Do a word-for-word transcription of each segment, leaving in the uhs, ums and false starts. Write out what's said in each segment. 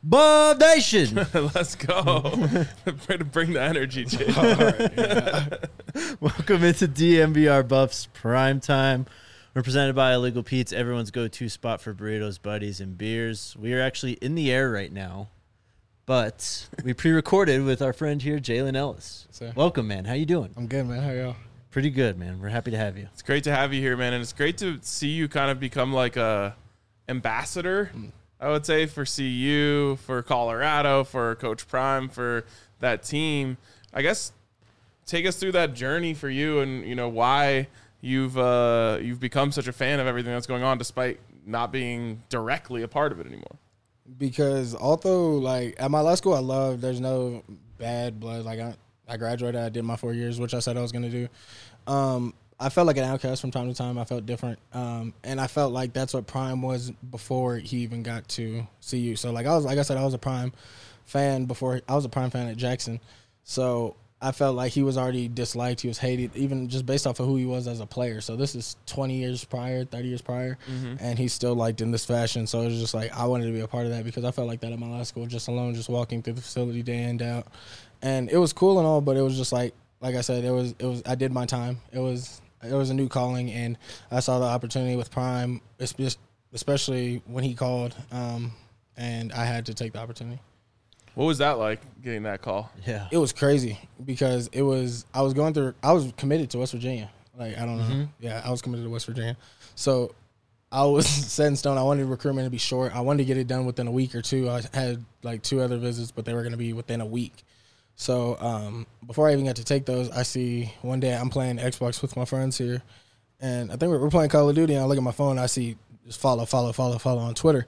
Bub Nation. Let's go. Way to bring the energy, Jay. Right, yeah. Welcome into D M V R Buffs Prime Time. We're presented by Illegal Pete's, everyone's go-to spot for burritos, buddies, and beers. We are actually in the air right now, but we pre-recorded with our friend here, Jalen Ellis. So, Welcome, man. How you doing? I'm good, man. How are y'all? Pretty good, man. We're happy to have you. It's great to have you here, man, and it's great to see you kind of become like a ambassador, mm. I would say, for C U, for Colorado, for Coach Prime, for that team. I guess take us through that journey for you, and you know why you've uh, you've become such a fan of everything that's going on, despite not being directly a part of it anymore. Because although, like, at my last school, I love, there's no bad blood. Like, I, I graduated, I did my four years, which I said I was going to do. Um, I felt like an outcast from time to time. I felt different. Um, and I felt like that's what Prime was before he even got to C U. So, like, I was, like I said, I was a Prime fan before, I was a Prime fan at Jackson. So, I felt like he was already disliked. He was hated, even just based off of who he was as a player. So this is twenty years prior, thirty years prior, mm-hmm. and he's still liked in this fashion. So it was just like I wanted to be a part of that because I felt like that at my last school, just alone, just walking through the facility day in, day out. And it was cool and all, but it was just like, like I said, it was, it was. I did my time. It was, it was a new calling, and I saw the opportunity with Prime, especially when he called, um, and I had to take the opportunity. What was that like, getting that call? Yeah. It was crazy because it was, I was going through, I was committed to West Virginia. Like, I don't know. Mm-hmm. Yeah, I was committed to West Virginia. So I was set in stone. I wanted recruitment to be short. I wanted to get it done within a week or two. I had like two other visits, but they were going to be within a week. So um, before I even got to take those, I see one day I'm playing Xbox with my friends here. And I think we're, we're playing Call of Duty, and I look at my phone, and I see just follow, follow, follow, follow on Twitter.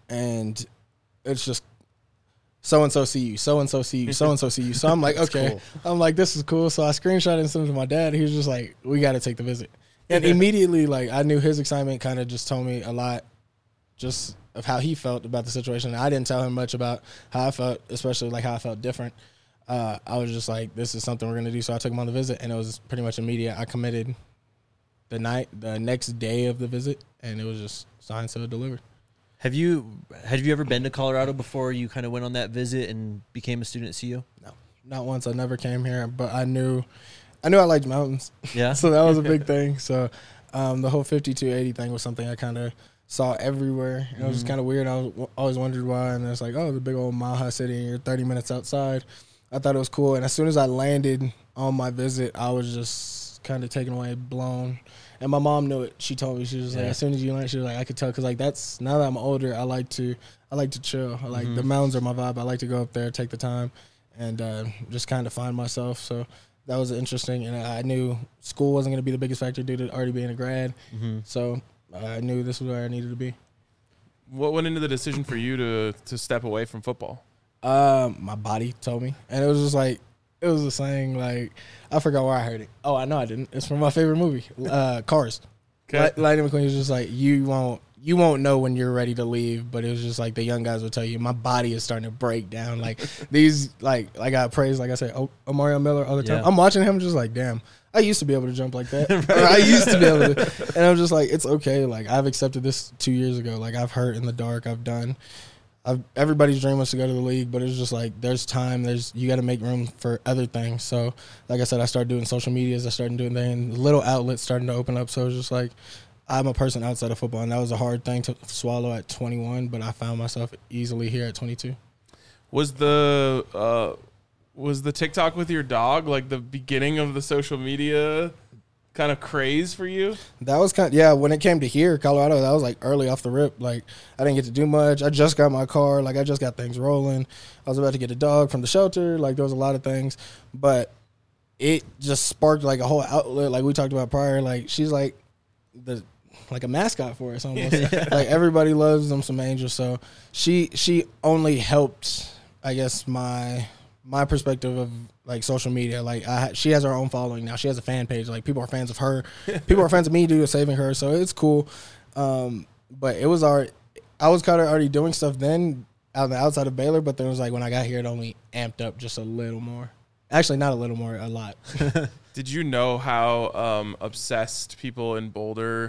And it's just, so-and-so see you, so-and-so see you, so-and-so see you. So I'm like, okay. Cool. I'm like, this is cool. So I screenshot and sent it to my dad. He was just like, we got to take the visit. And immediately, like, I knew his excitement kind of just told me a lot just of how he felt about the situation. I didn't tell him much about how I felt, especially, like, how I felt different. Uh, I was just like, this is something we're going to do. So I took him on the visit, and it was pretty much immediate. I committed the night, the next day of the visit, and it was just signed, sealed, delivered. Have you have you ever been to Colorado before you kind of went on that visit and became a student at C U? No, not once. I never came here, but I knew, I knew I liked mountains. Yeah. So that was a big thing. So um, the whole fifty-two eighty thing was something I kind of saw everywhere. And mm-hmm. It was just kind of weird. I was, always wondered why. And it's like, oh, the big old Mile High City, and you're thirty minutes outside. I thought it was cool. And as soon as I landed on my visit, I was just kind of taken away, blown. And my mom knew it. She told me, she was yeah. like, as soon as you learn, she was like, I could tell, because like that's, now that I'm older, I like to, I like to chill. I like mm-hmm. the mountains are my vibe. I like to go up there, take the time, and uh, just kind of find myself. So that was interesting, and I knew school wasn't going to be the biggest factor due to already being a grad. Mm-hmm. So I knew this was where I needed to be. What went into the decision for you to to step away from football? Um, my body told me, and it was just like, it was a saying, like, I forgot where I heard it. Oh, I know I didn't. It's from my favorite movie, uh, Cars. Okay. Lightning McQueen was just like, you won't you won't know when you're ready to leave, but it was just like the young guys will tell you, my body is starting to break down. Like, these, like, like I praise, like I say, oh, Mario Miller all the time. Yeah. I'm watching him just like, damn, I used to be able to jump like that. Right. Or I used to be able to. And I'm just like, it's okay. Like, I've accepted this two years ago. Like, I've hurt in the dark. I've done. I've, everybody's dream was to go to the league, but it's just like there's time. There's you got to make room for other things. So, like I said, I started doing social medias. I started doing things. Little outlets starting to open up. So it's just like I'm a person outside of football, and that was a hard thing to swallow at twenty-one. But I found myself easily here at twenty-two. Was the uh, was the TikTok with your dog like the beginning of the social media kind of craze for you? That was kind of, yeah, when it came to here, Colorado, that was like early off the rip. Like, I didn't get to do much. I just got my car. Like, I just got things rolling. I was about to get a dog from the shelter. Like, there was a lot of things. But it just sparked like a whole outlet. Like we talked about prior. Like, she's like the like a mascot for us almost. Yeah. Like, everybody loves them some angels. So she she only helped, I guess, my my perspective of like social media. Like, I, she has her own following now. She has a fan page. Like, people are fans of her. People are fans of me due to saving her. So it's cool. Um, but it was already, I was kind of already doing stuff then out the outside of Baylor. But then it was like when I got here, it only amped up just a little more. Actually, not a little more, a lot. Did you know how um, obsessed people in Boulder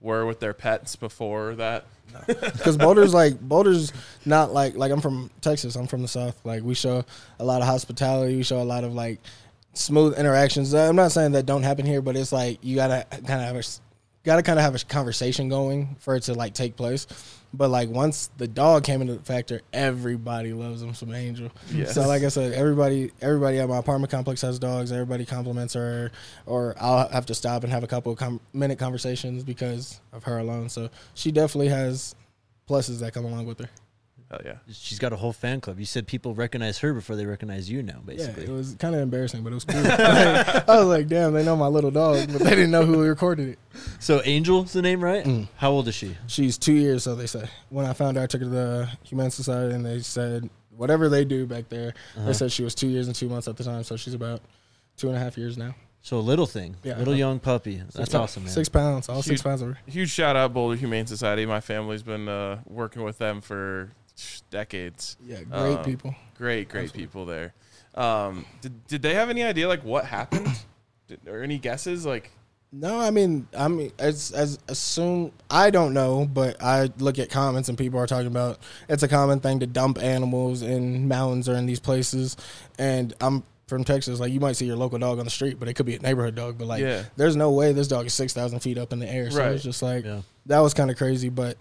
were with their pets before that? Because Boulder's like Boulder's not like like I'm from Texas. I'm from the South. Like we show a lot of hospitality. We show a lot of like smooth interactions. I'm not saying that don't happen here, but it's like you gotta kind of have a gotta kind of have a conversation going for it to like take place. But like once the dog came into the factor, everybody loves him some Angel. Yes. So like I said, everybody everybody at my apartment complex has dogs. Everybody compliments her, or I'll have to stop and have a couple of com- minute conversations because of her alone. So she definitely has pluses that come along with her. Hell yeah. She's got a whole fan club. You said people recognize her before they recognize you now, basically. Yeah, it was kind of embarrassing, but it was cool. Like, I was like, damn, they know my little dog, but they didn't know who recorded it. So Angel's the name, right? Mm. How old is she? She's two years, so they say. When I found her, I took her to the Humane Society, and they said whatever they do back there, Uh-huh. they said she was two years and two months at the time, so she's about two and a half years now. So a little thing, Yeah. little young puppy. That's Six- awesome, man. Six pounds, all Huge. six pounds of her. Huge shout out Boulder Humane Society. My family's been uh, working with them for decades. Yeah, great Um, people. Great, great Absolutely. people there. Um, did, did they have any idea like what happened? Did, or any guesses? Like, No, I mean, I mean, as as assume I don't know, but I look at comments and people are talking about it's a common thing to dump animals in mountains or in these places, and I'm from Texas. Like you might see your local dog on the street, but it could be a neighborhood dog. But like, Yeah. there's no way this dog is six thousand feet up in the air. So Right. it's just like Yeah. that was kind of crazy, but.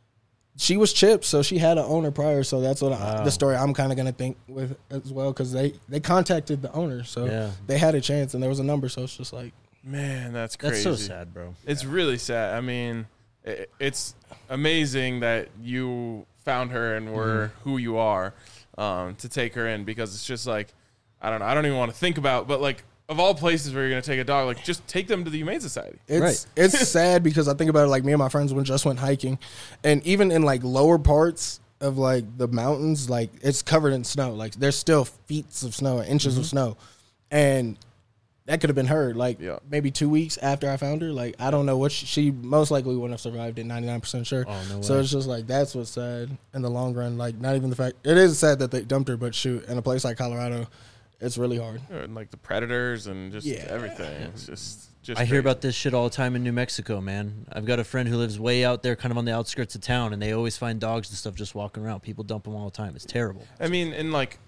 She was chipped, so she had an owner prior. So that's what I, Wow. the story I'm kind of gonna think with as well, because they they contacted the owner, so Yeah. they had a chance, and there was a number. So it's just like, man, that's crazy. That's so sad, bro. It's really sad. I mean, it, it's amazing that you found her and were Mm-hmm. who you are um, to take her in, because it's just like, I don't know. I don't even want to think about, but like, of all places where you're going to take a dog, like just take them to the Humane Society. It's Right. it's sad because I think about it, like me and my friends when just went hiking, and even in like lower parts of like the mountains, like it's covered in snow. Like there's still feet of snow, inches Mm-hmm. of snow, and that could have been her. Like Yeah. maybe two weeks after I found her. Like I don't know what she, she most likely wouldn't have survived it. ninety-nine percent sure. Oh, no So way. it's just like that's what's sad in the long run. Like not even the fact it is sad that they dumped her, but shoot, in a place like Colorado, it's really hard. And like the predators and just Yeah. everything. It's just, just I hear crazy. about this shit all the time in New Mexico, man. I've got a friend who lives way out there, kind of on the outskirts of town, and they always find dogs and stuff just walking around. People dump them all the time. It's terrible. I mean, and like,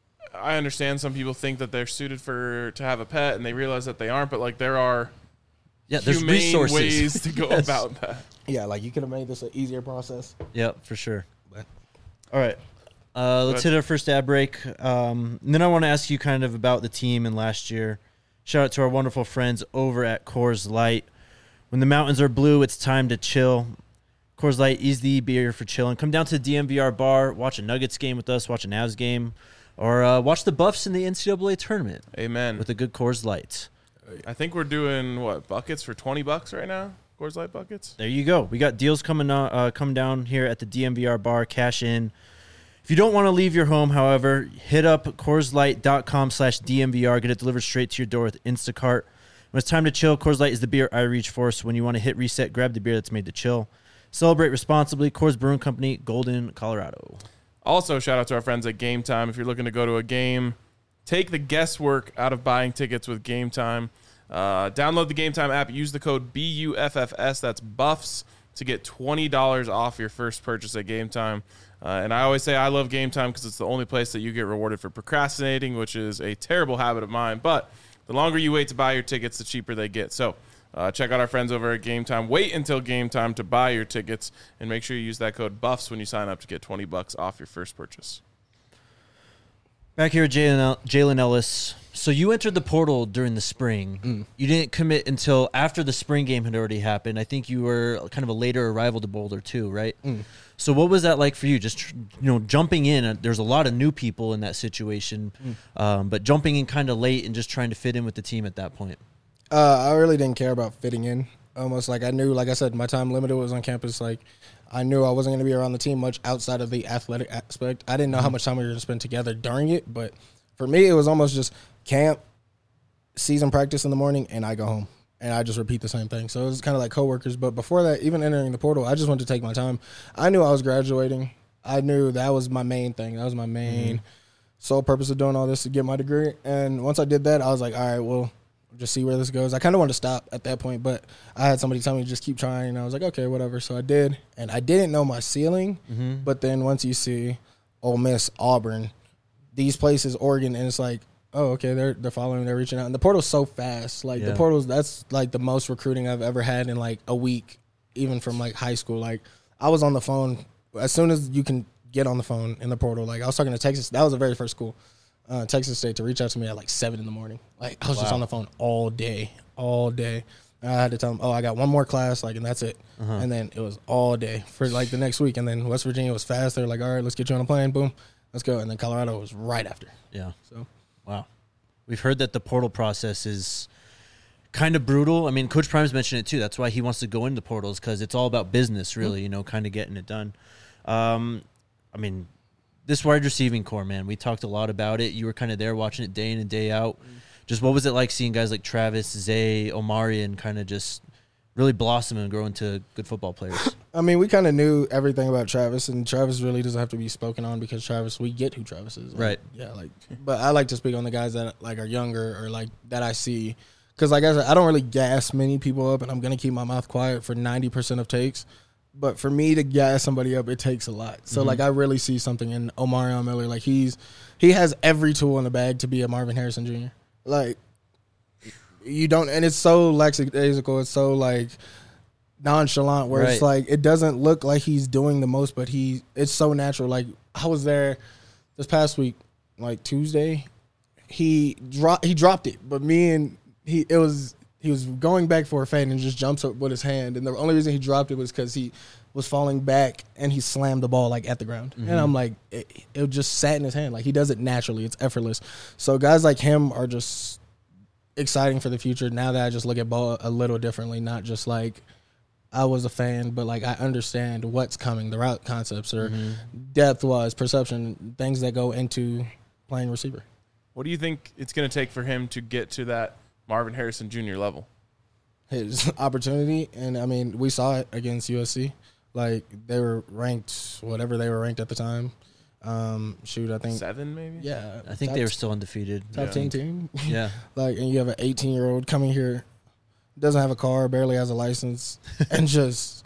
I understand some people think that they're suited for to have a pet, and they realize that they aren't. But like, there are Yeah, there's humane resources. ways to go Yes. about that. Yeah, like you could have made this an easier process. Yeah, for sure. But- All right. Uh, let's Good. hit our first ad break. Um, and then I want to ask you kind of about the team and last year. Shout out to our wonderful friends over at Coors Light. When the mountains are blue, it's time to chill. Coors Light is the beer for chilling. Come down to the D M V R bar, watch a Nuggets game with us, watch a Navs game, or uh, watch the Buffs in the N C double A tournament Amen. with a good Coors Light. I think we're doing what buckets for twenty bucks right now. Coors Light buckets. There you go. We got deals coming uh, uh, come down here at the D M V R bar. Cash in. If you don't want to leave your home, however, hit up CoorsLight.com slash DMVR. Get it delivered straight to your door with Instacart. When it's time to chill, Coors Light is the beer I reach for. So when you want to hit reset, grab the beer that's made to chill. Celebrate responsibly. Coors Brewing Company, Golden, Colorado. Also, shout out to our friends at Game Time. If you're looking to go to a game, take the guesswork out of buying tickets with Game Time. Uh, download the Game Time app. Use the code B U F F S. That's Buffs to get twenty dollars off your first purchase at Game Time. Uh, and I always say I love Game Time because it's the only place that you get rewarded for procrastinating, which is a terrible habit of mine. But the longer you wait to buy your tickets, the cheaper they get. So uh, check out our friends over at Game Time. Wait until Game Time to buy your tickets, and make sure you use that code BUFFS when you sign up to get twenty bucks off your first purchase. Back here, Jalen El- Jalen Ellis. So you entered the portal during the spring. Mm. You didn't commit until after the spring game had already happened. I think you were kind of a later arrival to Boulder too, right? Mm. So what was that like for you? Just tr- you know, jumping in. uh, There's a lot of new people in that situation, Mm. um, but jumping in kind of late and just trying to fit in with the team at that point. Uh, I really didn't care about fitting in. Almost like I knew, like I said, my time limited was on campus. Like I knew I wasn't going to be around the team much outside of the athletic aspect. I didn't know how much time we were going to spend together during it, but for me, it was almost just camp, season practice in the morning, and I go home. And I just repeat the same thing. So it was kind of like coworkers. But before that, even entering the portal, I just wanted to take my time. I knew I was graduating. I knew that was my main thing. That was my main Mm-hmm. sole purpose of doing all this, to get my degree. And once I did that, I was like, all right, well, just see where this goes. I kind of wanted to stop at that point, but I had somebody tell me just keep trying, and I was like, okay, whatever. So I did, and I didn't know my ceiling, Mm-hmm. but then once you see Ole Miss, Auburn, these places, Oregon, and it's like, oh, okay, they're they're following, they're reaching out, and the portal's so fast. Like Yeah. the portal's that's like the most recruiting I've ever had in like a week, even from like high school. Like I was on the phone as soon as you can get on the phone in the portal. Like I was talking to Texas, that was the very first school. Uh, Texas State to reach out to me at like seven in the morning. Like I was just Wow. on the phone all day, all day. And I had to tell them, oh, I got one more class, like, and that's it. Uh-huh. And then it was all day for like the next week. And then West Virginia was fast. They're like, all right, let's get you on a plane. Boom, let's go. And then Colorado was right after. Yeah. So Wow. We've heard that the portal process is kind of brutal. I mean, Coach Prime's mentioned it too. That's why he wants to go into portals, because it's all about business, really, mm-hmm. you know, kind of getting it done. Um, I mean, this wide receiving core, man, we talked a lot about it. You were kind of there watching it day in and day out. Mm-hmm. Just what was it like seeing guys like Travis, Zay, Omarion kind of just really blossom and grow into good football players? I mean, we kind of knew everything about Travis, and Travis really doesn't have to be spoken on because Travis, we get who Travis is. Like, right. Yeah, like, but I like to speak on the guys that like are younger or like that I see, because like I said, I don't really gas many people up, and I'm gonna keep my mouth quiet for ninety percent of takes. But for me to gas somebody up, it takes a lot. So, mm-hmm. like, I really see something in Omarion Miller. Like, he's he has every tool in the bag to be a Marvin Harrison Junior Like, you don't – and it's so lackadaisical. It's so, like, nonchalant where right. it's, like, it doesn't look like he's doing the most, but he – it's so natural. Like, I was there this past week, like, Tuesday. He, dro- he dropped it, but me and – he it was – he was going back for a fade and just jumps up with his hand. And the only reason he dropped it was because he was falling back and he slammed the ball, like, at the ground. Mm-hmm. And I'm like, it, it just sat in his hand. Like, he does it naturally. It's effortless. So guys like him are just exciting for the future now that I just look at ball a little differently, not just like I was a fan, but, like, I understand what's coming, the route concepts or mm-hmm. depth-wise, perception, things that go into playing receiver. What do you think it's going to take for him to get to that Marvin Harrison Junior level? His opportunity, and I mean, we saw it against U S C. Like, they were ranked, whatever they were ranked at the time. Um, shoot, I think seven, maybe. Yeah, I think they were still undefeated. Top yeah. ten team. Yeah, like, and you have an eighteen year old coming here, doesn't have a car, barely has a license, and just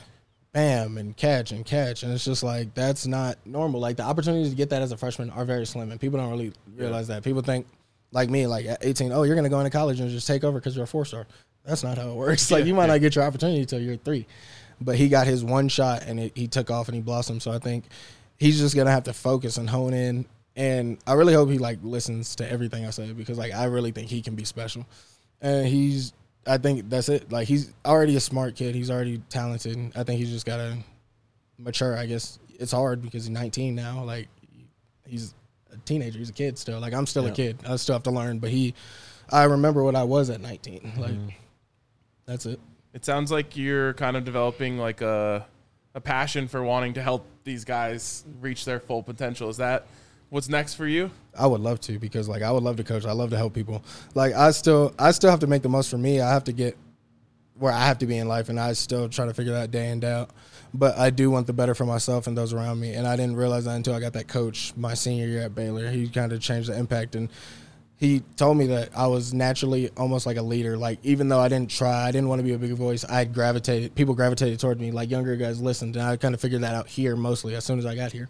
bam and catch and catch, and it's just like that's not normal. Like, the opportunities to get that as a freshman are very slim, and people don't really realize yeah. that. People think. Like me, like at eighteen, oh, you're going to go into college and just take over because you're a four-star. That's not how it works. Like, you might not get your opportunity until you're three. But he got his one shot, and it, he took off, and he blossomed. So I think he's just going to have to focus and hone in. And I really hope he, like, listens to everything I say because, like, I really think he can be special. And he's – I think that's it. Like, he's already a smart kid. He's already talented. I think he's just got to mature, I guess. It's hard because he's nineteen now. Like, he's – a teenager. He's a kid still. Like, I'm still yeah. a kid. I still have to learn. But he, I remember what I was at nineteen. Like, mm-hmm. that's it. It sounds like you're kind of developing like a a passion for wanting to help these guys reach their full potential. Is that what's next for you? I would love to because, like, I would love to coach. I love to help people. Like, I still, I still have to make the most for me. I have to get where I have to be in life, and I still try to figure that day in, day out. But I do want the better for myself and those around me, and I didn't realize that until I got that coach my senior year at Baylor. He kind of changed the impact, and he told me that I was naturally almost like a leader. Like, even though I didn't try, I didn't want to be a big voice, I gravitated, people gravitated toward me. Like, younger guys listened, and I kind of figured that out here mostly as soon as I got here.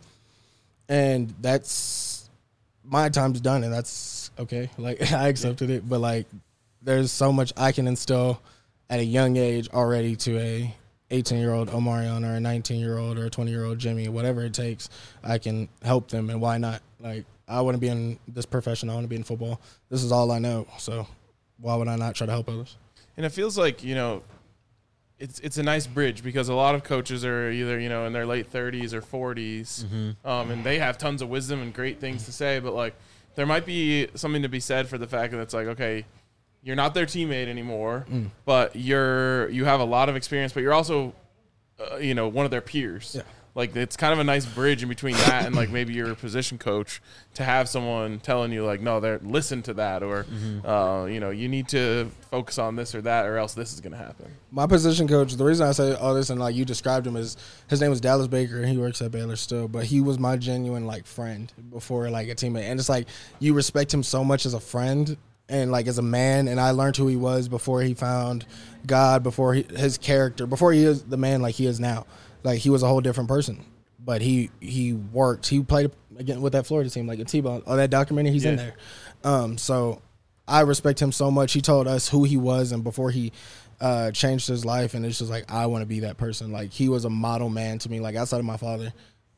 And that's, my time's done, and that's okay. Like, I accepted it, but, like, there's so much I can instill at a young age already to a eighteen-year-old Omarion or a nineteen-year-old or a twenty-year-old Jimmy, whatever it takes, I can help them, and why not? Like, I want to be in this profession. I want to be in football. This is all I know, so why would I not try to help others? And it feels like, you know, it's it's a nice bridge because a lot of coaches are either, you know, in their late thirties or forties, mm-hmm. um, and they have tons of wisdom and great things to say, but, like, there might be something to be said for the fact that it's like, okay, you're not their teammate anymore, mm. but you're you have a lot of experience, but you're also, uh, you know, one of their peers. Yeah. Like, it's kind of a nice bridge in between that and, like, maybe your position coach to have someone telling you, like, no, they're listen to that, or, mm-hmm. uh, you know, you need to focus on this or that, or else this is going to happen. My position coach, the reason I say all this and, like, you described him is his name was Dallas Baker, and he works at Baylor still, but he was my genuine, like, friend before, like, a teammate. And it's like you respect him so much as a friend and like as a man, and I learned who he was before he found God, before he, his character, before he is the man like he is now. Like he was a whole different person, but he he worked. He played again with that Florida team, like a T-ball. Oh, that documentary, he's yeah. in there. Um, so I respect him so much. He told us who he was, and before he uh, changed his life, and it's just like I want to be that person. Like he was a model man to me. Like outside of my father,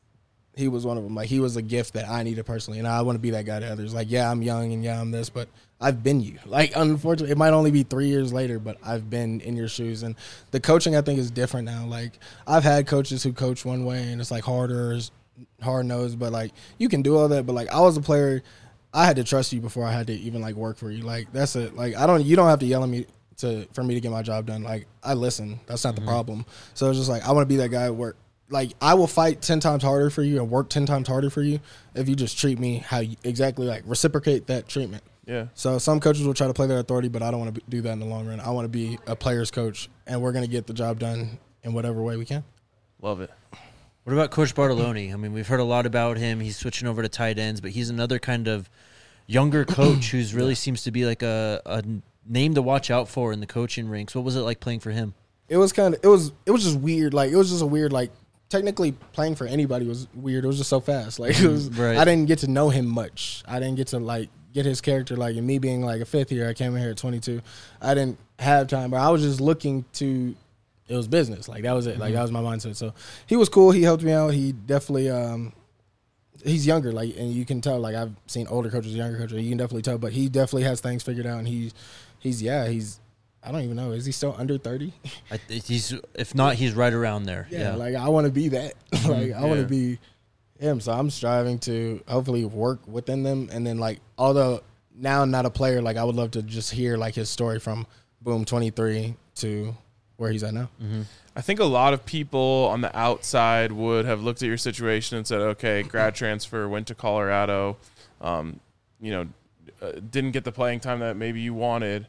he was one of them. Like he was a gift that I needed personally, and I want to be that guy to others. Like yeah, I'm young and yeah, I'm this, but I've been you. Like unfortunately, it might only be three years later, but I've been in your shoes. And the coaching I think is different now. Like I've had coaches who coach one way, and it's like harder, hard nosed, but like you can do all that. But like I was a player, I had to trust you before I had to even like work for you. Like that's it. Like I don't, you don't have to yell at me to for me to get my job done. Like I listen. That's not mm-hmm. the problem. So it's just like I want to be that guy at work. Like I will fight ten times harder for you and work ten times harder for you if you just treat me how you exactly like reciprocate that treatment. Yeah. So some coaches will try to play their authority, but I don't want to do that in the long run. I want to be a player's coach, and we're going to get the job done in whatever way we can. Love it. What about Coach Bartoloni? I mean, we've heard a lot about him. He's switching over to tight ends, but he's another kind of younger coach who's really yeah. seems to be like a, a name to watch out for in the coaching ranks. What was it like playing for him? It was kind of it was it was just weird. Like it was just a weird like. Technically, playing for anybody was weird. It was just so fast. Like it was, right. I didn't get to know him much. I didn't get to like get his character. Like, and me being like a fifth year, I came in here at twenty-two. I didn't have time, but I was just looking to. It was business. Like that was it. Like mm-hmm. that was my mindset. So he was cool. He helped me out. He definitely. Um, he's younger. Like, and you can tell. Like I've seen older coaches, younger coaches. You can definitely tell. But he definitely has things figured out. And he, he's yeah. He's. I don't even know. Is he still under thirty? I th- he's if not, he's right around there. Yeah, yeah. like I want to be that. like I yeah. want to be him. So I'm striving to hopefully work within them. And then like, although now I'm not a player, like I would love to just hear like his story from boom twenty-three to where he's at now. Mm-hmm. I think a lot of people on the outside would have looked at your situation and said, okay, grad transfer, went to Colorado, um, you know, uh, didn't get the playing time that maybe you wanted.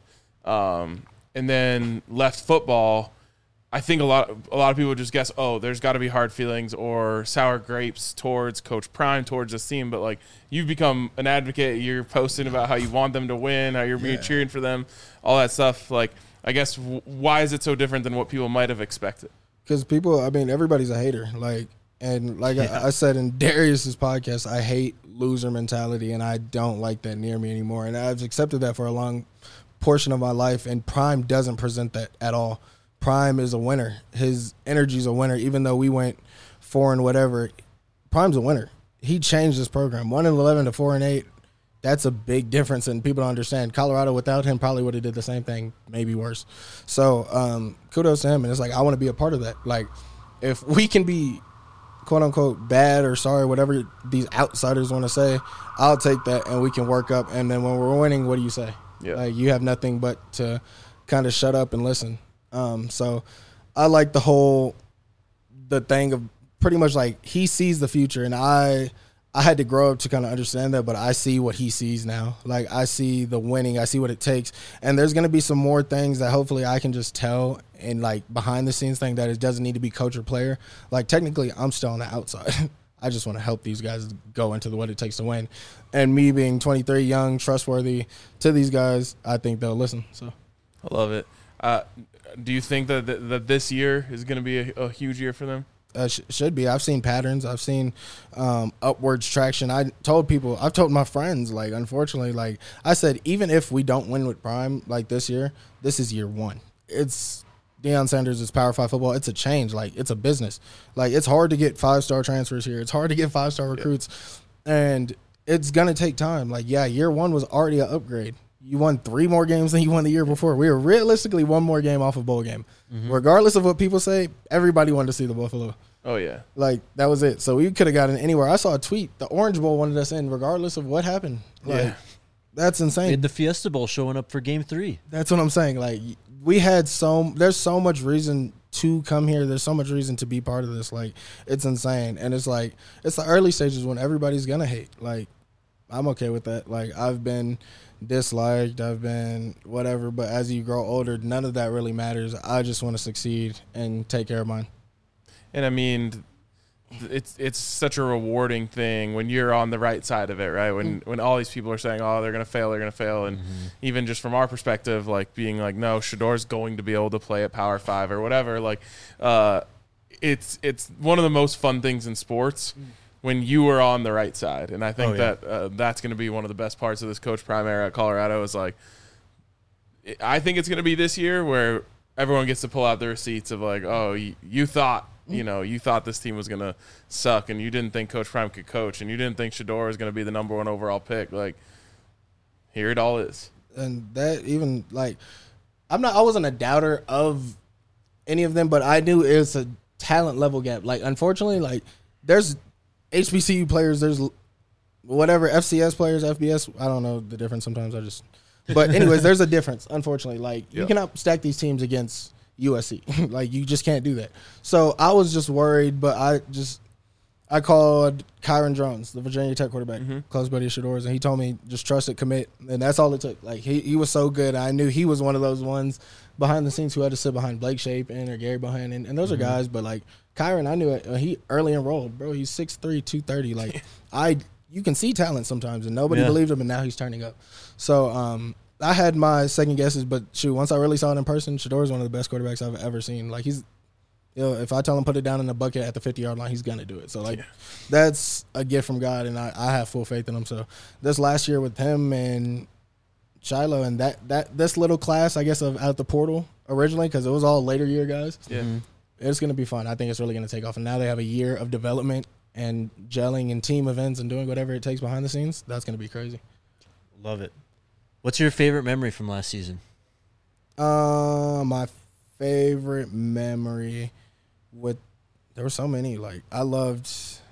Um, and then left football. I think a lot a lot of people would just guess, oh, there's got to be hard feelings or sour grapes towards Coach Prime, towards this team. But, like, you've become an advocate. You're posting about how you want them to win, how you're yeah. cheering for them, all that stuff. Like, I guess w- why is it so different than what people might have expected? Because people, I mean, everybody's a hater. Like, and like yeah. I, I said in Darius's podcast, I hate loser mentality, and I don't like that near me anymore. And I've accepted that for a long portion of my life, and Prime doesn't present that at all. Prime is a winner. His energy's a winner. Even though we went four and whatever, Prime's a winner. He changed this program. One and eleven to four and eight. That's a big difference, and people don't understand. Colorado without him probably would have did the same thing, maybe worse. So um, kudos to him, and it's like I want to be a part of that. Like if we can be quote unquote bad or sorry, whatever these outsiders want to say, I'll take that, and we can work up. And then when we're winning, what do you say? Yeah. Like you have nothing but to kind of shut up and listen. Um, so I like the whole, the thing of pretty much like he sees the future, and I, I had to grow up to kind of understand that, but I see what he sees now. Like I see the winning, I see what it takes, and there's going to be some more things that hopefully I can just tell and like behind the scenes thing that it doesn't need to be coach or player. Like technically I'm still on the outside. I just want to help these guys go into the, what it takes to win. And me being twenty-three, young, trustworthy to these guys, I think they'll listen. So I love it. Uh, do you think that th- that this year is going to be a, a huge year for them? Uh, sh- should be. I've seen patterns. I've seen um, upwards traction. I told people, I've told my friends, like, unfortunately, like I said, even if we don't win with Prime like this year, this is year one. It's Deion Sanders is Power Five football. It's a change. Like, it's a business. Like, it's hard to get five-star transfers here. It's hard to get five-star recruits. Yeah. And it's going to take time. Like, yeah, year one was already an upgrade. You won three more games than you won the year before. We were realistically one more game off a bowl game. Mm-hmm. Regardless of what people say, everybody wanted to see the Buffalo. Oh, yeah. Like, that was it. So we could have gotten anywhere. I saw a tweet. The Orange Bowl wanted us in regardless of what happened. Like, yeah. That's insane. We had the Fiesta Bowl showing up for game three. That's what I'm saying. Like, we had so – there's so much reason to come here. There's so much reason to be part of this. Like, it's insane. And it's like – it's the early stages when everybody's going to hate. Like, I'm okay with that. Like, I've been – disliked, I've been whatever, but as you grow older, none of that really matters. I just want to succeed and take care of mine. And I mean, it's it's such a rewarding thing when you're on the right side of it, right? When mm. when all these people are saying, "Oh, they're gonna fail, they're gonna fail," and mm-hmm. even just from our perspective, like being like, "No, Shedor's going to be able to play at Power Five or whatever." Like, uh, it's it's one of the most fun things in sports mm. when you are on the right side, and I think oh, yeah. that uh, that's going to be one of the best parts of this Coach Prime era at Colorado. Is like, I think it's going to be this year where everyone gets to pull out the receipts of like, "Oh, you, you thought." You know, you thought this team was going to suck, and you didn't think Coach Prime could coach, and you didn't think Shedeur was going to be the number one overall pick. Like, here it all is. And that even, like, I'm not – I wasn't a doubter of any of them, but I knew it was a talent level gap. Like, unfortunately, like, there's H B C U players, there's whatever, F C S players, F B S. I don't know the difference sometimes. I just – but anyways, there's a difference, unfortunately. Like, yeah. you cannot stack these teams against – U S C. Like, you just can't do that. So I was just worried, but I just I called Kyron Drones, the Virginia Tech quarterback, mm-hmm. close buddy of Shedeur's, and he told me just trust it, commit, and that's all it took. Like, he, he was so good. I knew he was one of those ones behind the scenes who had to sit behind Blake Shapen or Gary Bohannon, and, and those mm-hmm. are guys. But like Kyron, I knew it. Uh, he early enrolled, bro. He's six three, two thirty. Like I, you can see talent sometimes, and nobody yeah. believed him, and now he's turning up. So um. I had my second guesses, but shoot, once I really saw it in person, Shedeur is one of the best quarterbacks I've ever seen. Like, he's, you know, if I tell him put it down in the bucket at the fifty-yard line, he's going to do it. So, like, yeah. that's a gift from God, and I, I have full faith in him. So, this last year with him and Shiloh and that, that this little class, I guess, of out the portal originally, because it was all later year guys, yeah. mm-hmm. it's going to be fun. I think it's really going to take off. And now they have a year of development and gelling and team events and doing whatever it takes behind the scenes. That's going to be crazy. Love it. What's your favorite memory from last season? Uh, my favorite memory with there were so many. Like, I loved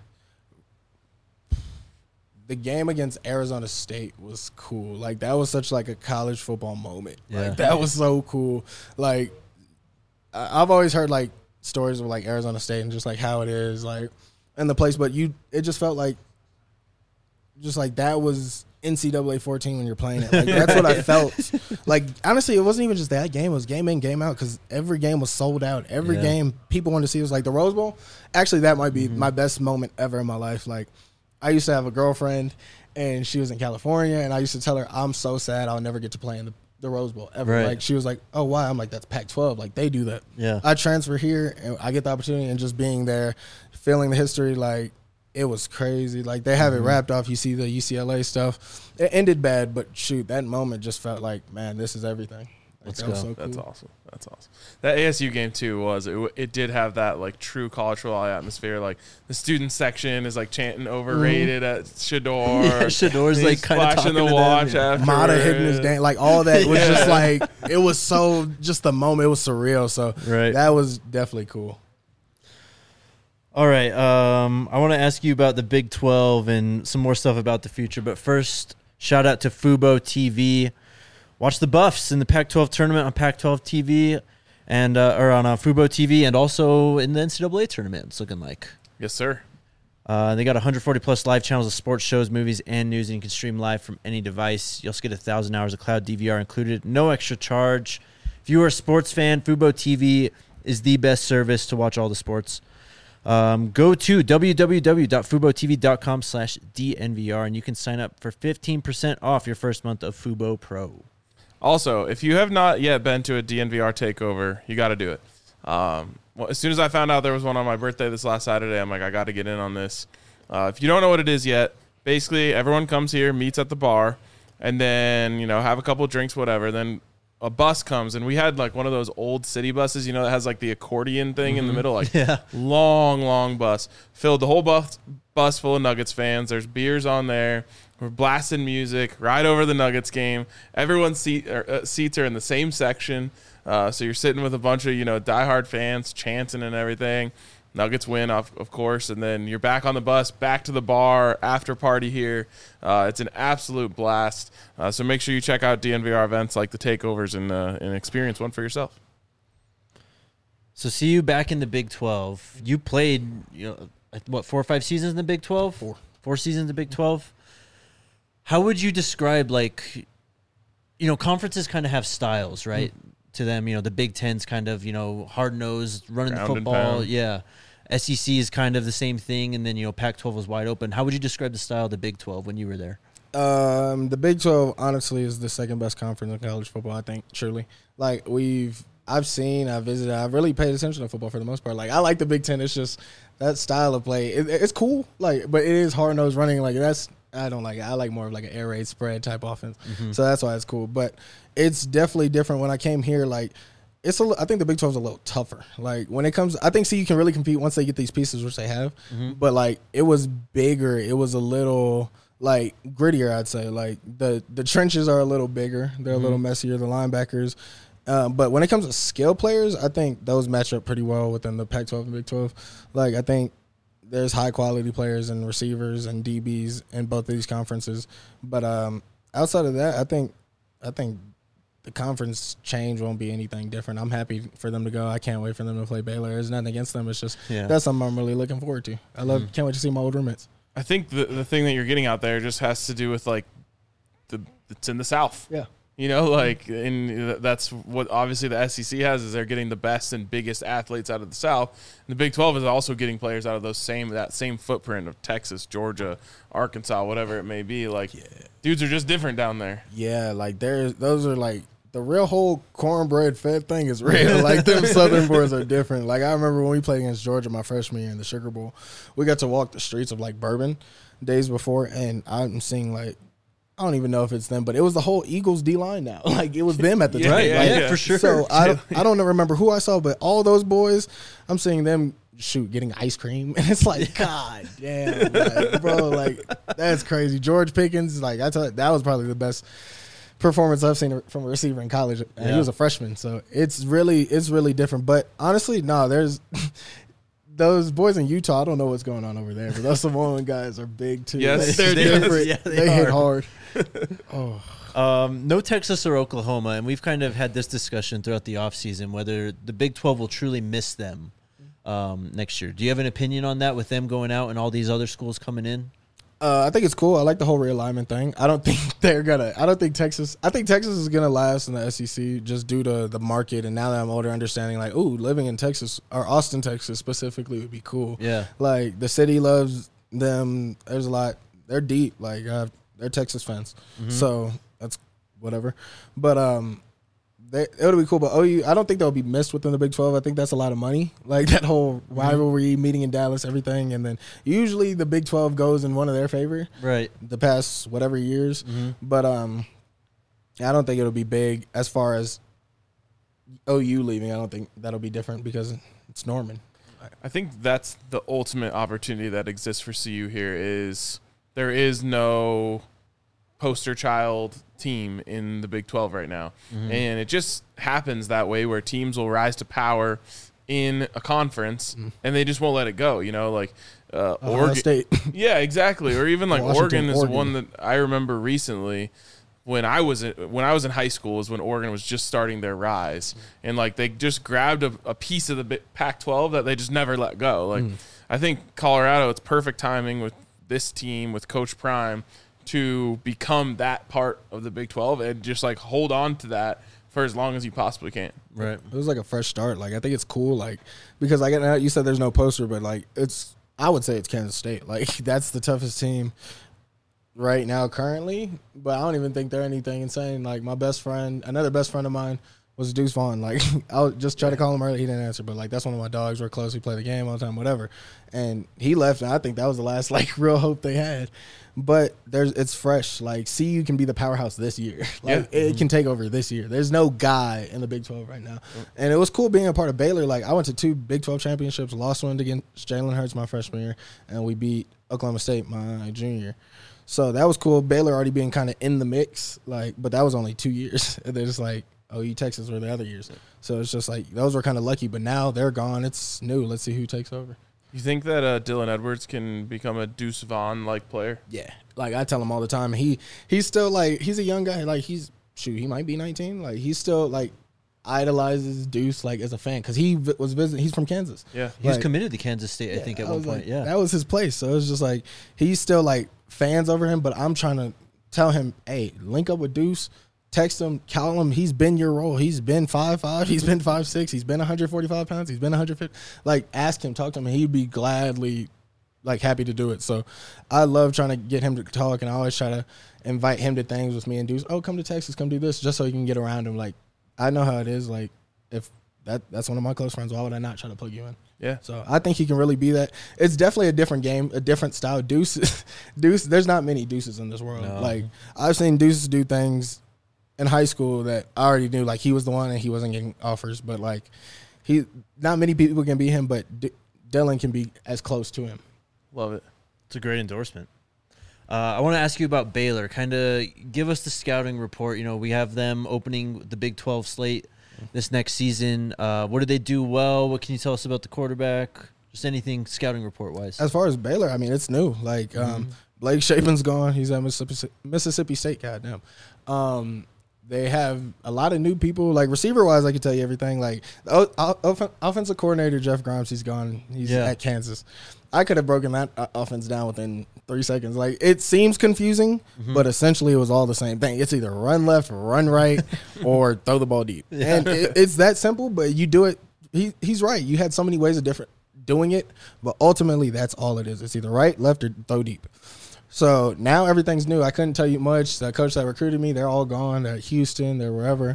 the game against Arizona State was cool. Like, that was such like a college football moment. Yeah. Like, that was so cool. Like, I've always heard like stories of like Arizona State and just like how it is like in the place, but you it just felt like just like that was N C double A fourteen when you're playing it. Like, that's what I felt. Like, honestly, it wasn't even just that game. It was game in, game out, because every game was sold out. Every yeah. game people wanted to see. It was like the Rose Bowl. Actually, that might be mm-hmm. my best moment ever in my life. Like, I used to have a girlfriend, and she was in California, and I used to tell her, I'm so sad I'll never get to play in the, the Rose Bowl ever. Right. Like, she was like, oh, why? I'm like, that's Pac twelve. Like, they do that. Yeah. I transfer here, and I get the opportunity, and just being there, feeling the history, like, it was crazy. Like, they have mm-hmm. it wrapped off. You see the U C L A stuff. It ended bad, but shoot, that moment just felt like, man, this is everything. Like, Let's that go. Was so cool. That's awesome. That's awesome. That A S U game too was it, it did have that like true college football atmosphere. Like, the student section is like chanting overrated mm. at Shedeur. Yeah, Shedeur's like kind of flashing the watch after. Mata hitting his dance, like all that was yeah. just like it was so just the moment. It was surreal. So right. that was definitely cool. All right. Um, I want to ask you about the Big twelve and some more stuff about the future. But first, shout out to Fubo T V. Watch the Buffs in the Pac twelve tournament on Pac twelve T V and uh, or on uh, Fubo T V, and also in the N C double A tournament. It's looking like. Yes, sir. Uh, they got one hundred forty plus live channels of sports shows, movies, and news, and you can stream live from any device. You also get one thousand hours of cloud D V R included, no extra charge. If you are a sports fan, Fubo T V is the best service to watch all the sports. Um, go to www.fubotv.com slash DNVR, and you can sign up for fifteen percent off your first month of Fubo Pro. Also, if you have not yet been to a D N V R takeover, you got to do it. Um, well, as soon as I found out there was one on my birthday this last Saturday, I'm like, I got to get in on this. Uh, if you don't know what it is yet, basically everyone comes here, meets at the bar, and then, you know, have a couple drinks, whatever. Then a bus comes, and we had like one of those old city buses, you know, that has like the accordion thing mm-hmm. in the middle, like yeah. long, long bus. Filled the whole bus, bus full of Nuggets fans. There's beers on there. We're blasting music right over the Nuggets game. Everyone's seat, uh, seats are in the same section, uh, so you're sitting with a bunch of, you know, diehard fans chanting and everything. Nuggets win, of, of course, and then you're back on the bus, back to the bar, after party here. Uh, it's an absolute blast. Uh, so make sure you check out D N V R events like the takeovers and, uh, and experience one for yourself. So see you back in the Big twelve. You played, you know, what, four or five seasons in the Big twelve? Four. Four seasons in the Big twelve. How would you describe, like, you know, conferences kind of have styles, right? Mm. To them, you know, the Big Ten's kind of, you know, hard-nosed, running Ground the football. and Yeah. S E C is kind of the same thing, and then, you know, Pac twelve was wide open. How would you describe the style of the Big twelve when you were there? Um, the Big twelve, honestly, is the second best conference in college football, I think, truly. Like, we've, I've seen, I've visited, I've really paid attention to football for the most part. Like, I like the Big Ten. It's just that style of play. It, it's cool, like, but it is hard-nosed running. Like, that's, I don't like it. I like more of like an air raid spread type offense. Mm-hmm. So that's why it's cool. But it's definitely different. When I came here, like, it's a, I think the Big twelve is a little tougher. Like, when it comes, I think C U can really compete once they get these pieces, which they have. Mm-hmm. But, like, it was bigger. It was a little, like, grittier, I'd say. Like, the, the trenches are a little bigger. They're mm-hmm. a little messier, the linebackers. Um, but when it comes to skill players, I think those match up pretty well within the Pac twelve and Big twelve. Like, I think there's high-quality players and receivers and D Bs in both of these conferences. But um, outside of that, I think I think the conference change won't be anything different. I'm happy for them to go. I can't wait for them to play Baylor. There's nothing against them. It's just yeah. that's something I'm really looking forward to. I love. Mm-hmm. Can't wait to see my old roommates. I think the the thing that you're getting out there just has to do with, like, the it's in the South. Yeah. You know, like, and that's what obviously the S E C has, is they're getting the best and biggest athletes out of the South. And the Big twelve is also getting players out of those same that same footprint of Texas, Georgia, Arkansas, whatever it may be. Like, yeah. dudes are just different down there. Yeah, like there's those are like the real whole cornbread fed thing is real. Like, them Southern boys are different. Like, I remember when we played against Georgia my freshman year in the Sugar Bowl, we got to walk the streets of, like, Bourbon days before, and I'm seeing, like, I don't even know if it's them, but it was the whole Eagles D-line now. Like, it was them at the yeah, time. Yeah, like, yeah, for sure. So I don't, I don't remember who I saw, but all those boys, I'm seeing them, shoot, getting ice cream. And it's like, God damn, like, bro, like, that's crazy. George Pickens, like, I tell you, that was probably the best performance I've seen from a receiver in college. And yeah. he was a freshman. So it's really, it's really different. But honestly, no, there's – those boys in Utah, I don't know what's going on over there, but those Samoan guys are big too. Yes, they're they, different. Yeah, they, they hit hard. oh. Um, no Texas or Oklahoma, and we've kind of had this discussion throughout the offseason whether the Big twelve will truly miss them um, next year. Do you have an opinion on that with them going out and all these other schools coming in? Uh, I think it's cool. I like the whole realignment thing. I don't think they're gonna. I don't think Texas. I think Texas is gonna last in the S E C just due to the market. And now that I'm older, understanding like, ooh, living in Texas or Austin, Texas specifically would be cool. Yeah, like the city loves them. There's a lot. They're deep. Like uh, they're Texas fans, mm-hmm. so that's whatever. But um, they, it would be cool. But O U, I don't think they'll be missed within the Big twelve. I think that's a lot of money. Like that whole rivalry mm-hmm. meeting in Dallas, everything. And then usually the Big twelve goes in one of their favor. Right. The past whatever years. Mm-hmm. But um, I don't think it'll be big as far as O U leaving. I don't think that'll be different because it's Norman. I think that's the ultimate opportunity that exists for C U here is there is no poster child team in the Big twelve right now. Mm-hmm. And it just happens that way where teams will rise to power in a conference mm-hmm. and they just won't let it go, you know, like uh, Oregon State. Yeah, exactly. Or even like Washington, Oregon is Oregon. one that I remember recently when I was in, when I was in high school is when Oregon was just starting their rise. And like they just grabbed a, a piece of the Pac twelve that they just never let go. Like mm. I think Colorado, it's perfect timing with this team with Coach Prime to become that part of the Big twelve and just like hold on to that for as long as you possibly can. Right. It was like a fresh start. Like I think it's cool. Like because I get you said there's no poster, but like it's I would say it's Kansas State. Like that's the toughest team right now currently. But I don't even think they're anything insane. Like my best friend, another best friend of mine was Deuce Vaughn. Like I would just try to call him early, he didn't answer. But like that's one of my dogs. We're close. We play the game all the time, whatever. And he left, and I think that was the last like real hope they had. But there's it's fresh. Like C U can be the powerhouse this year. Like yeah. it can take over this year. There's no guy in the Big twelve right now. And it was cool being a part of Baylor. Like I went to two Big twelve championships, lost one against Jalen Hurts my freshman year, and we beat Oklahoma State my junior year. So that was cool. Baylor already being kind of in the mix, like, but that was only two years. And they're just like, O U, Texas were the other years. So it's just like those were kind of lucky, but now they're gone. It's new. Let's see who takes over. You think that uh, Dylan Edwards can become a Deuce Vaughn-like player? Yeah. Like, I tell him all the time. He He's still, like, he's a young guy. Like, he's, shoot, he might be nineteen. Like, he's still, like, idolizes Deuce, like, as a fan. Because he v- was visiting. He's from Kansas. Yeah. He like, was committed to Kansas State, yeah, I think, at I one point. Like, yeah. That was his place. So, it's just, like, he's still, like, fans over him. But I'm trying to tell him, hey, link up with Deuce. text him, call him. He's been your role. He's been five five. He's been five six. He's been one hundred forty-five pounds. He's been one hundred fifty. Like, ask him, talk to him, and he'd be gladly, like, happy to do it. So I love trying to get him to talk, and I always try to invite him to things with me and do, oh, come to Texas, come do this, just so you can get around him. Like, I know how it is. Like, if that that's one of my close friends, why would I not try to plug you in? Yeah. So I think he can really be that. It's definitely a different game, a different style. Deuce, Deuce. There's not many Deuces in this world. No. Like, I've seen Deuces do things in high school that I already knew. Like, he was the one, and he wasn't getting offers. But like, he, not many people can beat him, but D- Dylan can be as close to him. Love it. It's a great endorsement. Uh, I want to ask you about Baylor. Kind of give us the scouting report. You know, we have them opening the Big twelve slate this next season. Uh, what did they do well? What can you tell us about the quarterback? Just anything scouting report wise. As far as Baylor, I mean, it's new. Like, um, Mm-hmm. Blake Shapen's gone. He's at Mississippi, Mississippi State. Goddamn. Um, they have a lot of new people. Like, receiver wise, I can tell you everything. Like, the o- off- offensive coordinator Jeff Grimes, he's gone. He's Yeah. at Kansas. I could have broken that uh, offense down within three seconds. Like, it seems confusing, Mm-hmm. but essentially it was all the same thing. It's either run left, run right, or throw the ball deep. Yeah. And it, it's that simple, but you do it. He He's right. You had so many ways of different doing it, but ultimately that's all it is. It's either right, left, or throw deep. So now everything's new. I couldn't tell you much. The coach that recruited me, they're all gone. They're at Houston. They're wherever.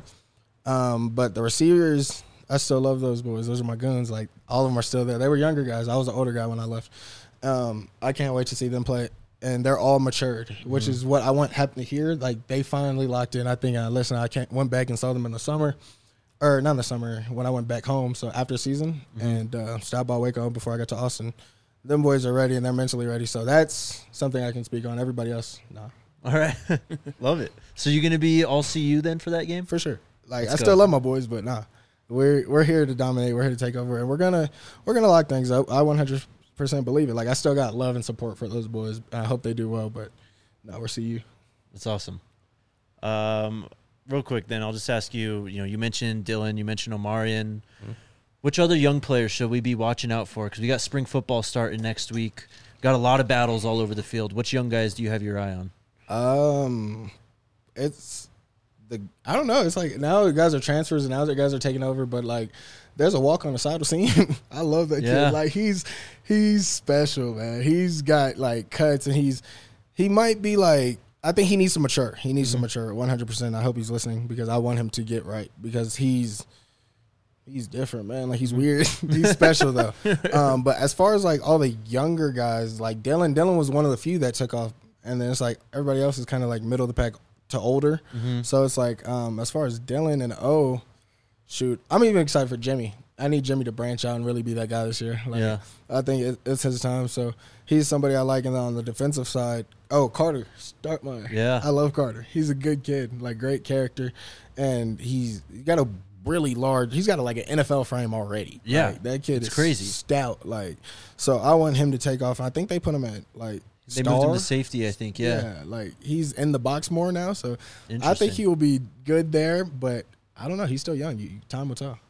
Um, but the receivers, I still love those boys. Those are my goons. Like, all of them are still there. They were younger guys. I was an older guy when I left. Um, I can't wait to see them play. And they're all matured, which mm-hmm. is what I want happen to hear. Like, they finally locked in. I think, uh, listen, I can't, went back and saw them in the summer. Or not in the summer, when I went back home. So after season, mm-hmm. and uh, stopped by Waco before I got to Austin. Them boys are ready, and they're mentally ready. So that's something I can speak on. Everybody else, no. All right. Love it. So you're going to be all C U then for that game? For sure. Like, Let's I go. still love my boys, but nah. We're we're here to dominate. We're here to take over, and we're gonna we're gonna lock things up. I one hundred percent believe it. Like, I still got love and support for those boys. And I hope they do well, but no, we're C U. That's awesome. Um, real quick, then I'll just ask you. You know, you mentioned Dylan, you mentioned Omarion. Mm-hmm. Which other young players should we be watching out for? Because we got spring football starting next week. Got a lot of battles all over the field. Which young guys do you have your eye on? Um, it's the I don't know. It's like now the guys are transfers and now the guys are taking over. But like, there's a walk on the side of seam. I love that Yeah. kid. Like, he's he's special, man. He's got like cuts, and he's he might be like. I think he needs to mature. He needs mm-hmm. to mature one hundred percent. I hope he's listening, because I want him to get right, because he's. He's different, man. Like, he's weird. He's special, though. Um, but as far as, like, all the younger guys, like Dylan, Dylan was one of the few that took off. And then it's like everybody else is kind of, like, middle of the pack to older. Mm-hmm. So it's like, um, as far as Dylan and O, shoot, I'm even excited for Jimmy. I need Jimmy to branch out and really be that guy this year. Like, yeah. I think it, it's his time. So he's somebody I like. And then on the defensive side, oh, Carter Starkmeyer. Yeah. I love Carter. He's a good kid, like, great character. And he's got a really large. He's got a, like, an N F L frame already. Yeah, like, that kid it's is crazy, stout. Like, so I want him to take off. I think they put him at like they star. moved him to safety. I think. Yeah. yeah, like, he's in the box more now. So I think he will be good there. But I don't know. He's still young. You, time will tell.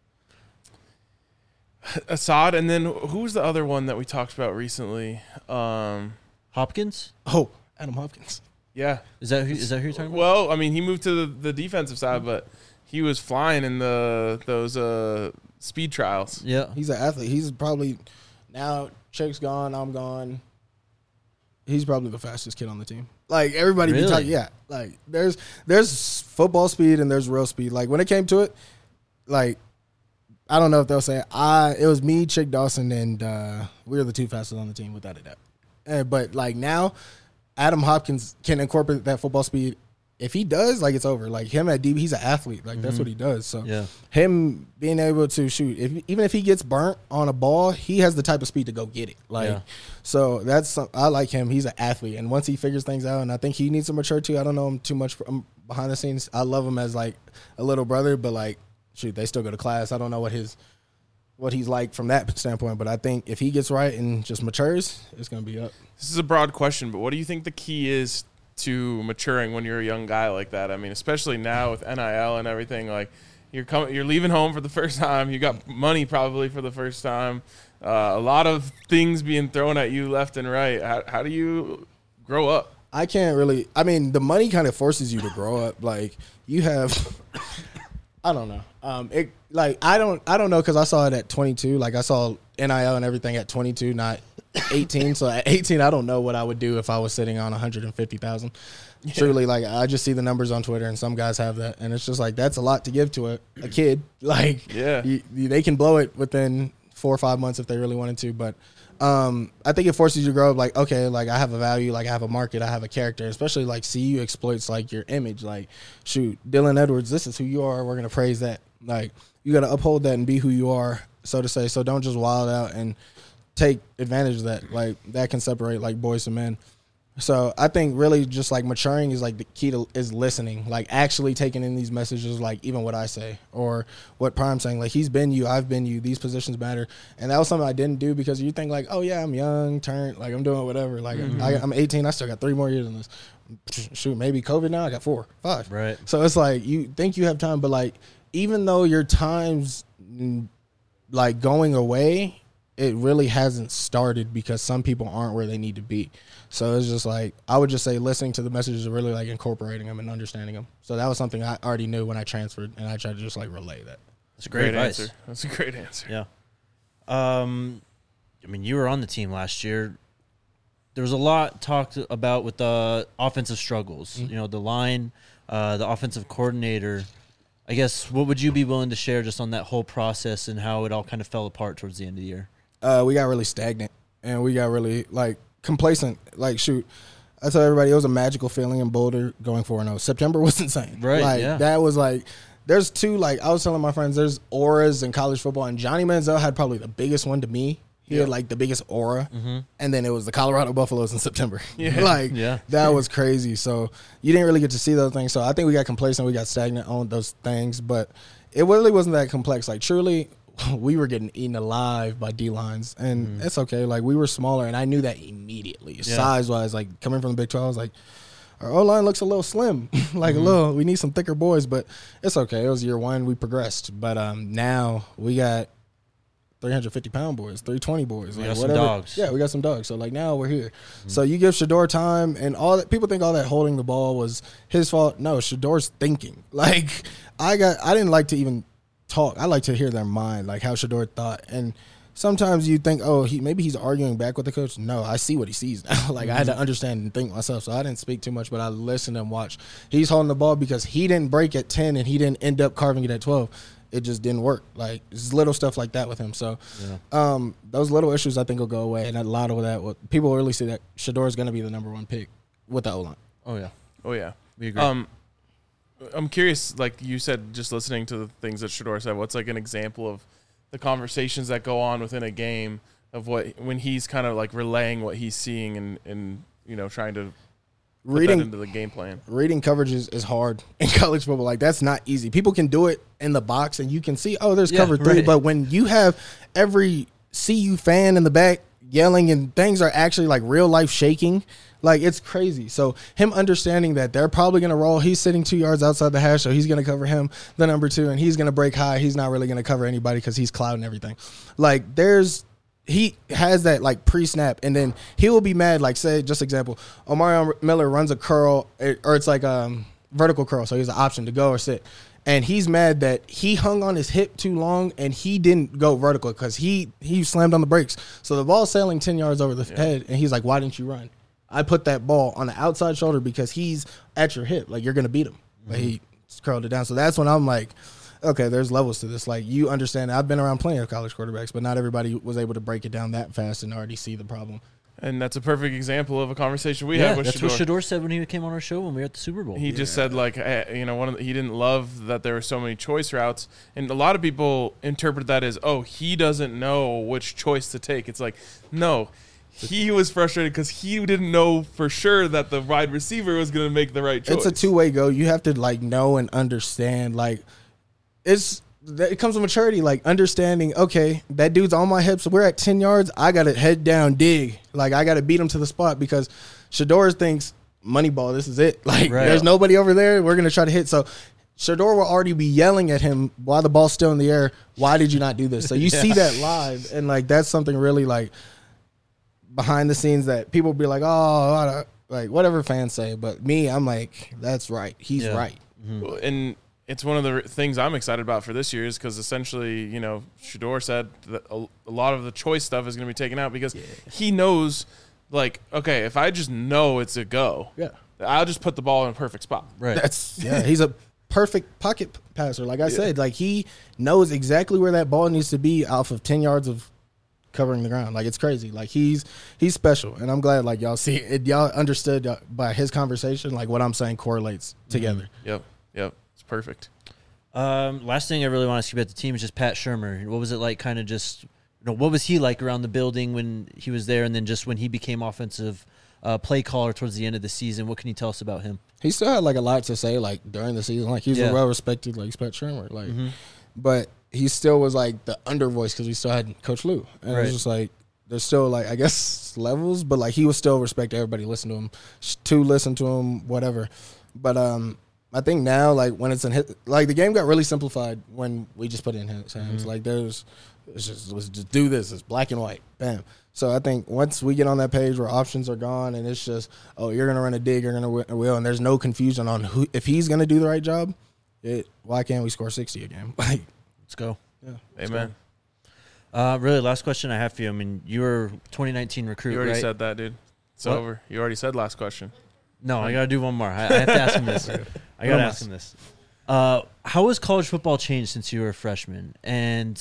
Assad, and then who's the other one that we talked about recently? Um, Hopkins. Oh, Adam Hopkins. Yeah, is that who, is that who you're talking about? Well, I mean, he moved to the, the defensive side, but he was flying in the those uh, speed trials. Yeah, he's an athlete. He's probably now Chick's gone. I'm gone. He's probably the fastest kid on the team. Like, everybody really? be talking. Yeah, like there's there's football speed and there's real speed. Like, when it came to it, like, I don't know if they'll say it. I it was me, Chick Dawson, and uh, we were the two fastest on the team without a doubt. And, but like now, Adam Hopkins can incorporate that football speed. If he does, like, it's over. Like, him at D B, he's an athlete. Like, mm-hmm. that's what he does. So yeah. him being able to shoot, if even if he gets burnt on a ball, he has the type of speed to go get it. Like, yeah. so that's I like him. He's an athlete, and once he figures things out, and I think he needs to mature too. I don't know him too much from behind the scenes. I love him as like a little brother, but like, shoot, they still go to class. I don't know what his what he's like from that standpoint, but I think if he gets right and just matures, it's gonna be up. This is a broad question, but what do you think the key is to maturing when you're a young guy like that? I mean, especially now with N I L and everything, like, you're coming, you're leaving home for the first time. You got money probably for the first time. Uh, a lot of things being thrown at you left and right. How, how do you grow up? I can't really. I mean, the money kind of forces you to grow up. Like you have, I don't know. Um, it like I don't I don't know because I saw it at twenty-two. Like I saw N I L and everything at twenty-two, not eighteen. So at eighteen, I don't know what I would do if I was sitting on one hundred fifty thousand. Yeah. Truly, like I just see the numbers on Twitter, and some guys have that, and it's just like that's a lot to give to a, a kid. Like, yeah, you, you, they can blow it within four or five months if they really wanted to, but. Um, I think it forces you to grow up like, okay, like I have a value, like I have a market, I have a character, especially like C U exploits like your image. Like, shoot, Dylan Edwards, this is who you are. We're going to praise that. Like, you got to uphold that and be who you are, so to say. So don't just wild out and take advantage of that. Like, that can separate like boys and men. So I think really just like maturing is like the key to is listening, like actually taking in these messages, like even what I say or what Prime's saying, like he's been you, I've been you, these positions matter. And that was something I didn't do because you think like, oh yeah, I'm young, turned, like I'm doing whatever. Like mm-hmm. I, I'm eighteen, I still got three more years in this. Shoot, maybe COVID now, I got four, five. Right. So it's like you think you have time, but like even though your time's like going away, it really hasn't started because some people aren't where they need to be. So it's just like, I would just say listening to the messages and really like incorporating them and understanding them. So that was something I already knew when I transferred, and I tried to just like relay that. That's a great, great advice. answer. That's a great answer. Yeah. Um, I mean, you were on the team last year. There was a lot talked about with the offensive struggles, mm-hmm. you know, the line, uh, the offensive coordinator. I guess, what would you be willing to share just on that whole process and how it all kind of fell apart towards the end of the year? Uh, we got really stagnant, and we got really, like, complacent. Like, shoot, I tell everybody it was a magical feeling in Boulder going four and oh. September was insane. Right, like, yeah. That was, like, there's two, like, I was telling my friends, there's auras in college football, and Johnny Manziel had probably the biggest one to me. He yeah. had, like, the biggest aura, mm-hmm. and then it was the Colorado Buffaloes in September. Yeah. like, yeah. that was crazy. So you didn't really get to see those things. So I think we got complacent. We got stagnant on those things, but it really wasn't that complex. Like, truly, we were getting eaten alive by D-lines, and mm. it's okay. Like, we were smaller, and I knew that immediately. Yeah. Size-wise, like, coming from the Big twelve, I was like, our O-line looks a little slim. like, mm-hmm. a little, we need some thicker boys, but it's okay. It was year one. We progressed. But um, now we got three hundred fifty pound boys, three twenty boys. We like, got whatever. some dogs. Yeah, we got some dogs. So, like, now we're here. Mm-hmm. So you give Shedeur time, and all that. People think all that holding the ball was his fault. No, Shedeur's thinking. Like, I got, I didn't like to even talk. I like to hear their mind, like how Shedeur thought. And sometimes you think, oh, he maybe he's arguing back with the coach. No, I see what he sees now. like mm-hmm. I had to understand and think myself. So I didn't speak too much, but I listened and watched. He's holding the ball because he didn't break at ten and he didn't end up carving it at twelve. It just didn't work. Like, it's little stuff like that with him. So yeah. um, those little issues I think will go away. And a lot of that, will, people really see that Shedeur is going to be the number one pick with the O-line. Oh, yeah. Oh, yeah. We agree. Um, I'm curious, like you said, just listening to the things that Shedeur said, what's like an example of the conversations that go on within a game of what, when he's kind of like relaying what he's seeing and, and you know, trying to put reading that into the game plan? Reading coverage is, is hard in college football. Like, that's not easy. People can do it in the box and you can see, oh, there's yeah, cover three. Right. But when you have every C U fan in the back yelling and things are actually like real life shaking, like, it's crazy. So him understanding that they're probably going to roll. He's sitting two yards outside the hash, so he's going to cover him, the number two, and he's going to break high. He's not really going to cover anybody because he's clouding everything. Like, there's he has that, like, pre-snap, and then he will be mad. Like, say, just example, Omarion Miller runs a curl, or it's like a um, vertical curl, so he has an option to go or sit. And he's mad that he hung on his hip too long and he didn't go vertical because he, he slammed on the brakes. So the ball's sailing ten yards over the yeah. head, and he's like, why didn't you run? I put that ball on the outside shoulder because he's at your hip. Like, you're going to beat him. Mm-hmm. But he curled it down. So that's when I'm like, okay, there's levels to this. Like, you understand. I've been around plenty of college quarterbacks, but not everybody was able to break it down that fast and already see the problem. And that's a perfect example of a conversation we yeah, had with that's Shedeur. what Shedeur said when he came on our show when we were at the Super Bowl. He yeah. just said, like, you know, one of the, he didn't love that there were so many choice routes. And a lot of people interpret that as, oh, he doesn't know which choice to take. It's like, no. He was frustrated because he didn't know for sure that the wide receiver was going to make the right choice. It's a two-way go. You have to, like, know and understand. Like, it's it comes with maturity, like, understanding, okay, that dude's on my hips. We're at ten yards. I got to head down, dig. Like, I got to beat him to the spot because Shedeur thinks, money ball, this is it. Like, right. there's nobody over there. We're going to try to hit. So Shedeur will already be yelling at him while the ball's still in the air. Why did you not do this? So you yeah. see that live, and, like, that's something really, like, behind the scenes that people be like, oh, like whatever fans say, but me, I'm like, that's right. He's Yeah. right. Mm-hmm. And it's one of the things I'm excited about for this year is because essentially, you know, Shedeur said that a, a lot of the choice stuff is going to be taken out because yeah. he knows, like, okay, if I just know it's a go, yeah, I'll just put the ball in a perfect spot. Right. That's yeah. He's a perfect pocket passer. Like I yeah. said, like he knows exactly where that ball needs to be off of ten yards of covering the ground. Like it's crazy. Like he's he's special, and I'm glad like y'all see it. Y'all understood by his conversation like what I'm saying correlates together. Mm-hmm. Yep, yep, it's perfect. Um, last thing I really want to ask you about the team is just Pat Shurmur. What was it like? Kind of just you know what was he like around the building when he was there, and then just when he became offensive uh, play caller towards the end of the season? What can you tell us about him? He still had like a lot to say like during the season. Like he's yeah. a well respected like Pat Shurmur. Like, mm-hmm. but. He still was like the under voice because we still had Coach Lou, and right. it was just like there's still like I guess levels, but like he would still respect everybody, listen to him, to listen to him, whatever. But um, I think now like when it's in his, like the game got really simplified when we just put it in his hands. Mm-hmm. Like there's it's just let's just do this. It's black and white, bam. So I think once we get on that page where options are gone and it's just oh you're gonna run a dig, you're gonna win a wheel, and there's no confusion on who if he's gonna do the right job. It why can't we score sixty a game? Like. Let's go. Yeah. Amen. Go. Uh, really, last question I have for you. I mean, you were twenty nineteen recruit, You already right? said that, dude. It's what? over. You already said last question. No, I got to do one more. I, I have to ask him this. I got to ask him this. Uh, how has college football changed since you were a freshman? And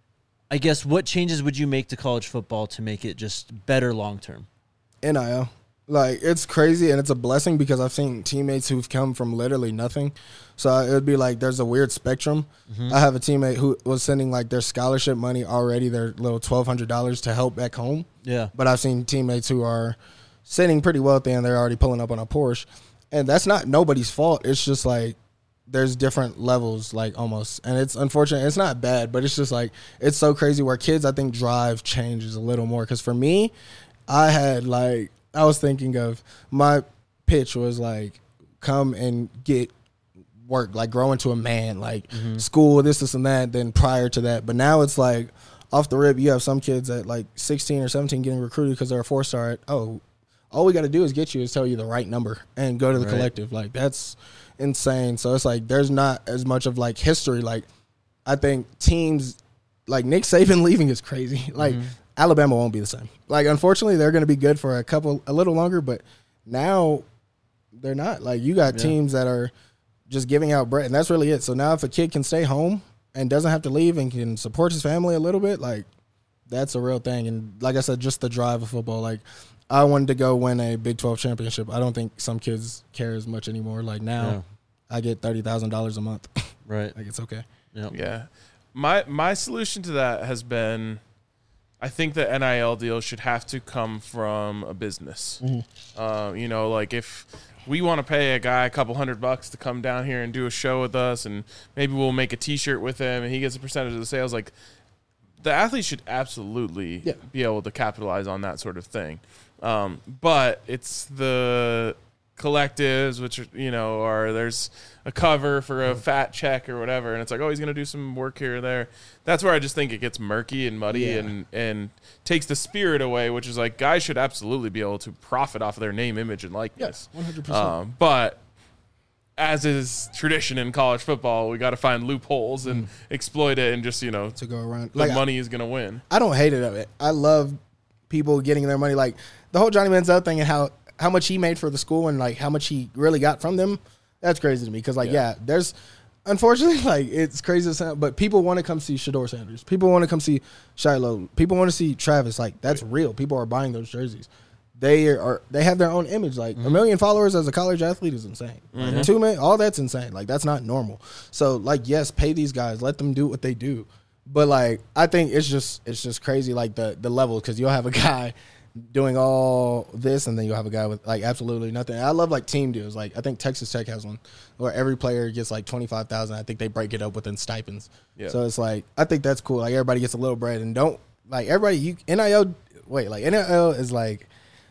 I guess what changes would you make to college football to make it just better long term? N I L. Like, it's crazy, and it's a blessing because I've seen teammates who've come from literally nothing. So it would be like there's a weird spectrum. Mm-hmm. I have a teammate who was sending, like, their scholarship money already, their little twelve hundred dollars to help back home. Yeah. But I've seen teammates who are sitting pretty wealthy, and they're already pulling up on a Porsche. And that's not nobody's fault. It's just, like, there's different levels, like, almost. And it's unfortunate. It's not bad, but it's just, like, it's so crazy where kids, I think, drive changes a little more. Because for me, I had, like, I was thinking of my pitch was like, come and get work, like grow into a man, like mm-hmm. school, this, this, and that, then prior to that. But now it's like off the rip, you have some kids at like sixteen or seventeen getting recruited because they're a four-star. At, oh, all we got to do is get you is tell you the right number and go to the right. collective. Like that's insane. So it's like there's not as much of like history. Like I think teams like Nick Saban leaving is crazy. Like mm-hmm. Alabama won't be the same. Like, unfortunately, they're going to be good for a couple, a little longer, but now they're not. Like, you got yeah. teams that are just giving out bread, and that's really it. So now if a kid can stay home and doesn't have to leave and can support his family a little bit, like, that's a real thing. And like I said, just the drive of football. Like, I wanted to go win a Big twelve championship. I don't think some kids care as much anymore. Like, now yeah. I get thirty thousand dollars a month. Right. Like, it's okay. Yep. Yeah. My My solution to that has been, I think the N I L deal should have to come from a business. Mm-hmm. Uh, you know, like if we want to pay a guy a couple hundred bucks to come down here and do a show with us, and maybe we'll make a T-shirt with him, and he gets a percentage of the sales. Like the athlete should absolutely yeah. be able to capitalize on that sort of thing. Um, but it's the collectives, which, you know, or there's a cover for a fat check or whatever, and it's like, oh, he's going to do some work here or there. That's where I just think it gets murky and muddy yeah. and, and takes the spirit away, which is like guys should absolutely be able to profit off of their name, image, and likeness. Yes, one hundred percent. Um, but as is tradition in college football, we got to find loopholes and mm. exploit it and just, you know, to go around. The like, money I, is going to win. I don't hate it of it. I love people getting their money. Like the whole Johnny Manziel thing and how, how much he made for the school and like how much he really got from them. That's crazy to me. Cause like, yeah, yeah there's unfortunately like it's crazy to sound, but people want to come see Shedeur Sanders. People want to come see Shiloh. People want to see Travis. Like that's right. real. People are buying those jerseys. They are, they have their own image. Like mm-hmm. a million followers as a college athlete is insane. Mm-hmm. Like, two million, all that's insane. Like that's not normal. So like, yes, pay these guys, let them do what they do. But like, I think it's just, it's just crazy. Like the, the level, cause you'll have a guy doing all this, and then you'll have a guy with like absolutely nothing. I love like team deals. Like I think Texas Tech has one where every player gets like twenty-five thousand. I think they break it up within stipends. Yeah. So it's like I think that's cool. Like everybody gets a little bread, and don't like everybody. You N I L. Wait, like N I L is like.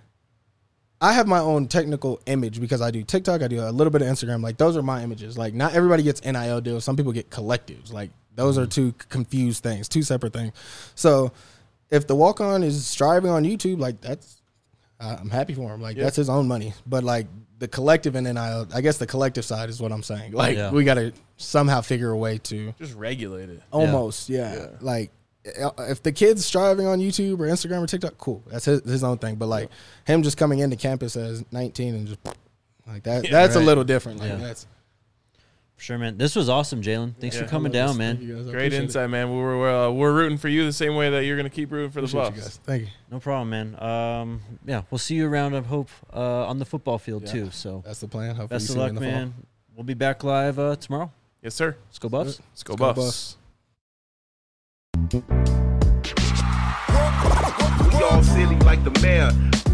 I have my own technical image because I do TikTok. I do a little bit of Instagram. Like those are my images. Like not everybody gets N I L deals. Some people get collectives. Like those are two confused things, two separate things. So. If the walk-on is striving on YouTube, like that's I, I'm happy for him. Like Yeah. that's his own money. But like the collective and N I L, I guess the collective side is what I'm saying. Like Yeah. we got to somehow figure a way to Just regulate it. almost, yeah. Yeah. Like if the kid's striving on YouTube or Instagram or TikTok, cool. That's his, his own thing. But like him just coming into campus as nineteen and just like that, Yeah, that's right. a little different. Like Yeah. that's For sure, man. This was awesome, Jalen. Thanks Yeah. for coming I love down, this. man. Thank you guys. I Great appreciate it. insight, man. We're uh, we're rooting for you the same way that you're going to keep rooting for the Appreciate you Buffs. guys. Thank you. No problem, man. Um, yeah, we'll see you around, I hope, uh, on the football field, Yeah. too. So That's the plan. Hopefully best you of see me luck, in the fall. man. We'll be back live uh, tomorrow. Yes, sir. Let's go, Buffs. Let's go, Let's go Buffs. Buffs. We all silly like the mayor.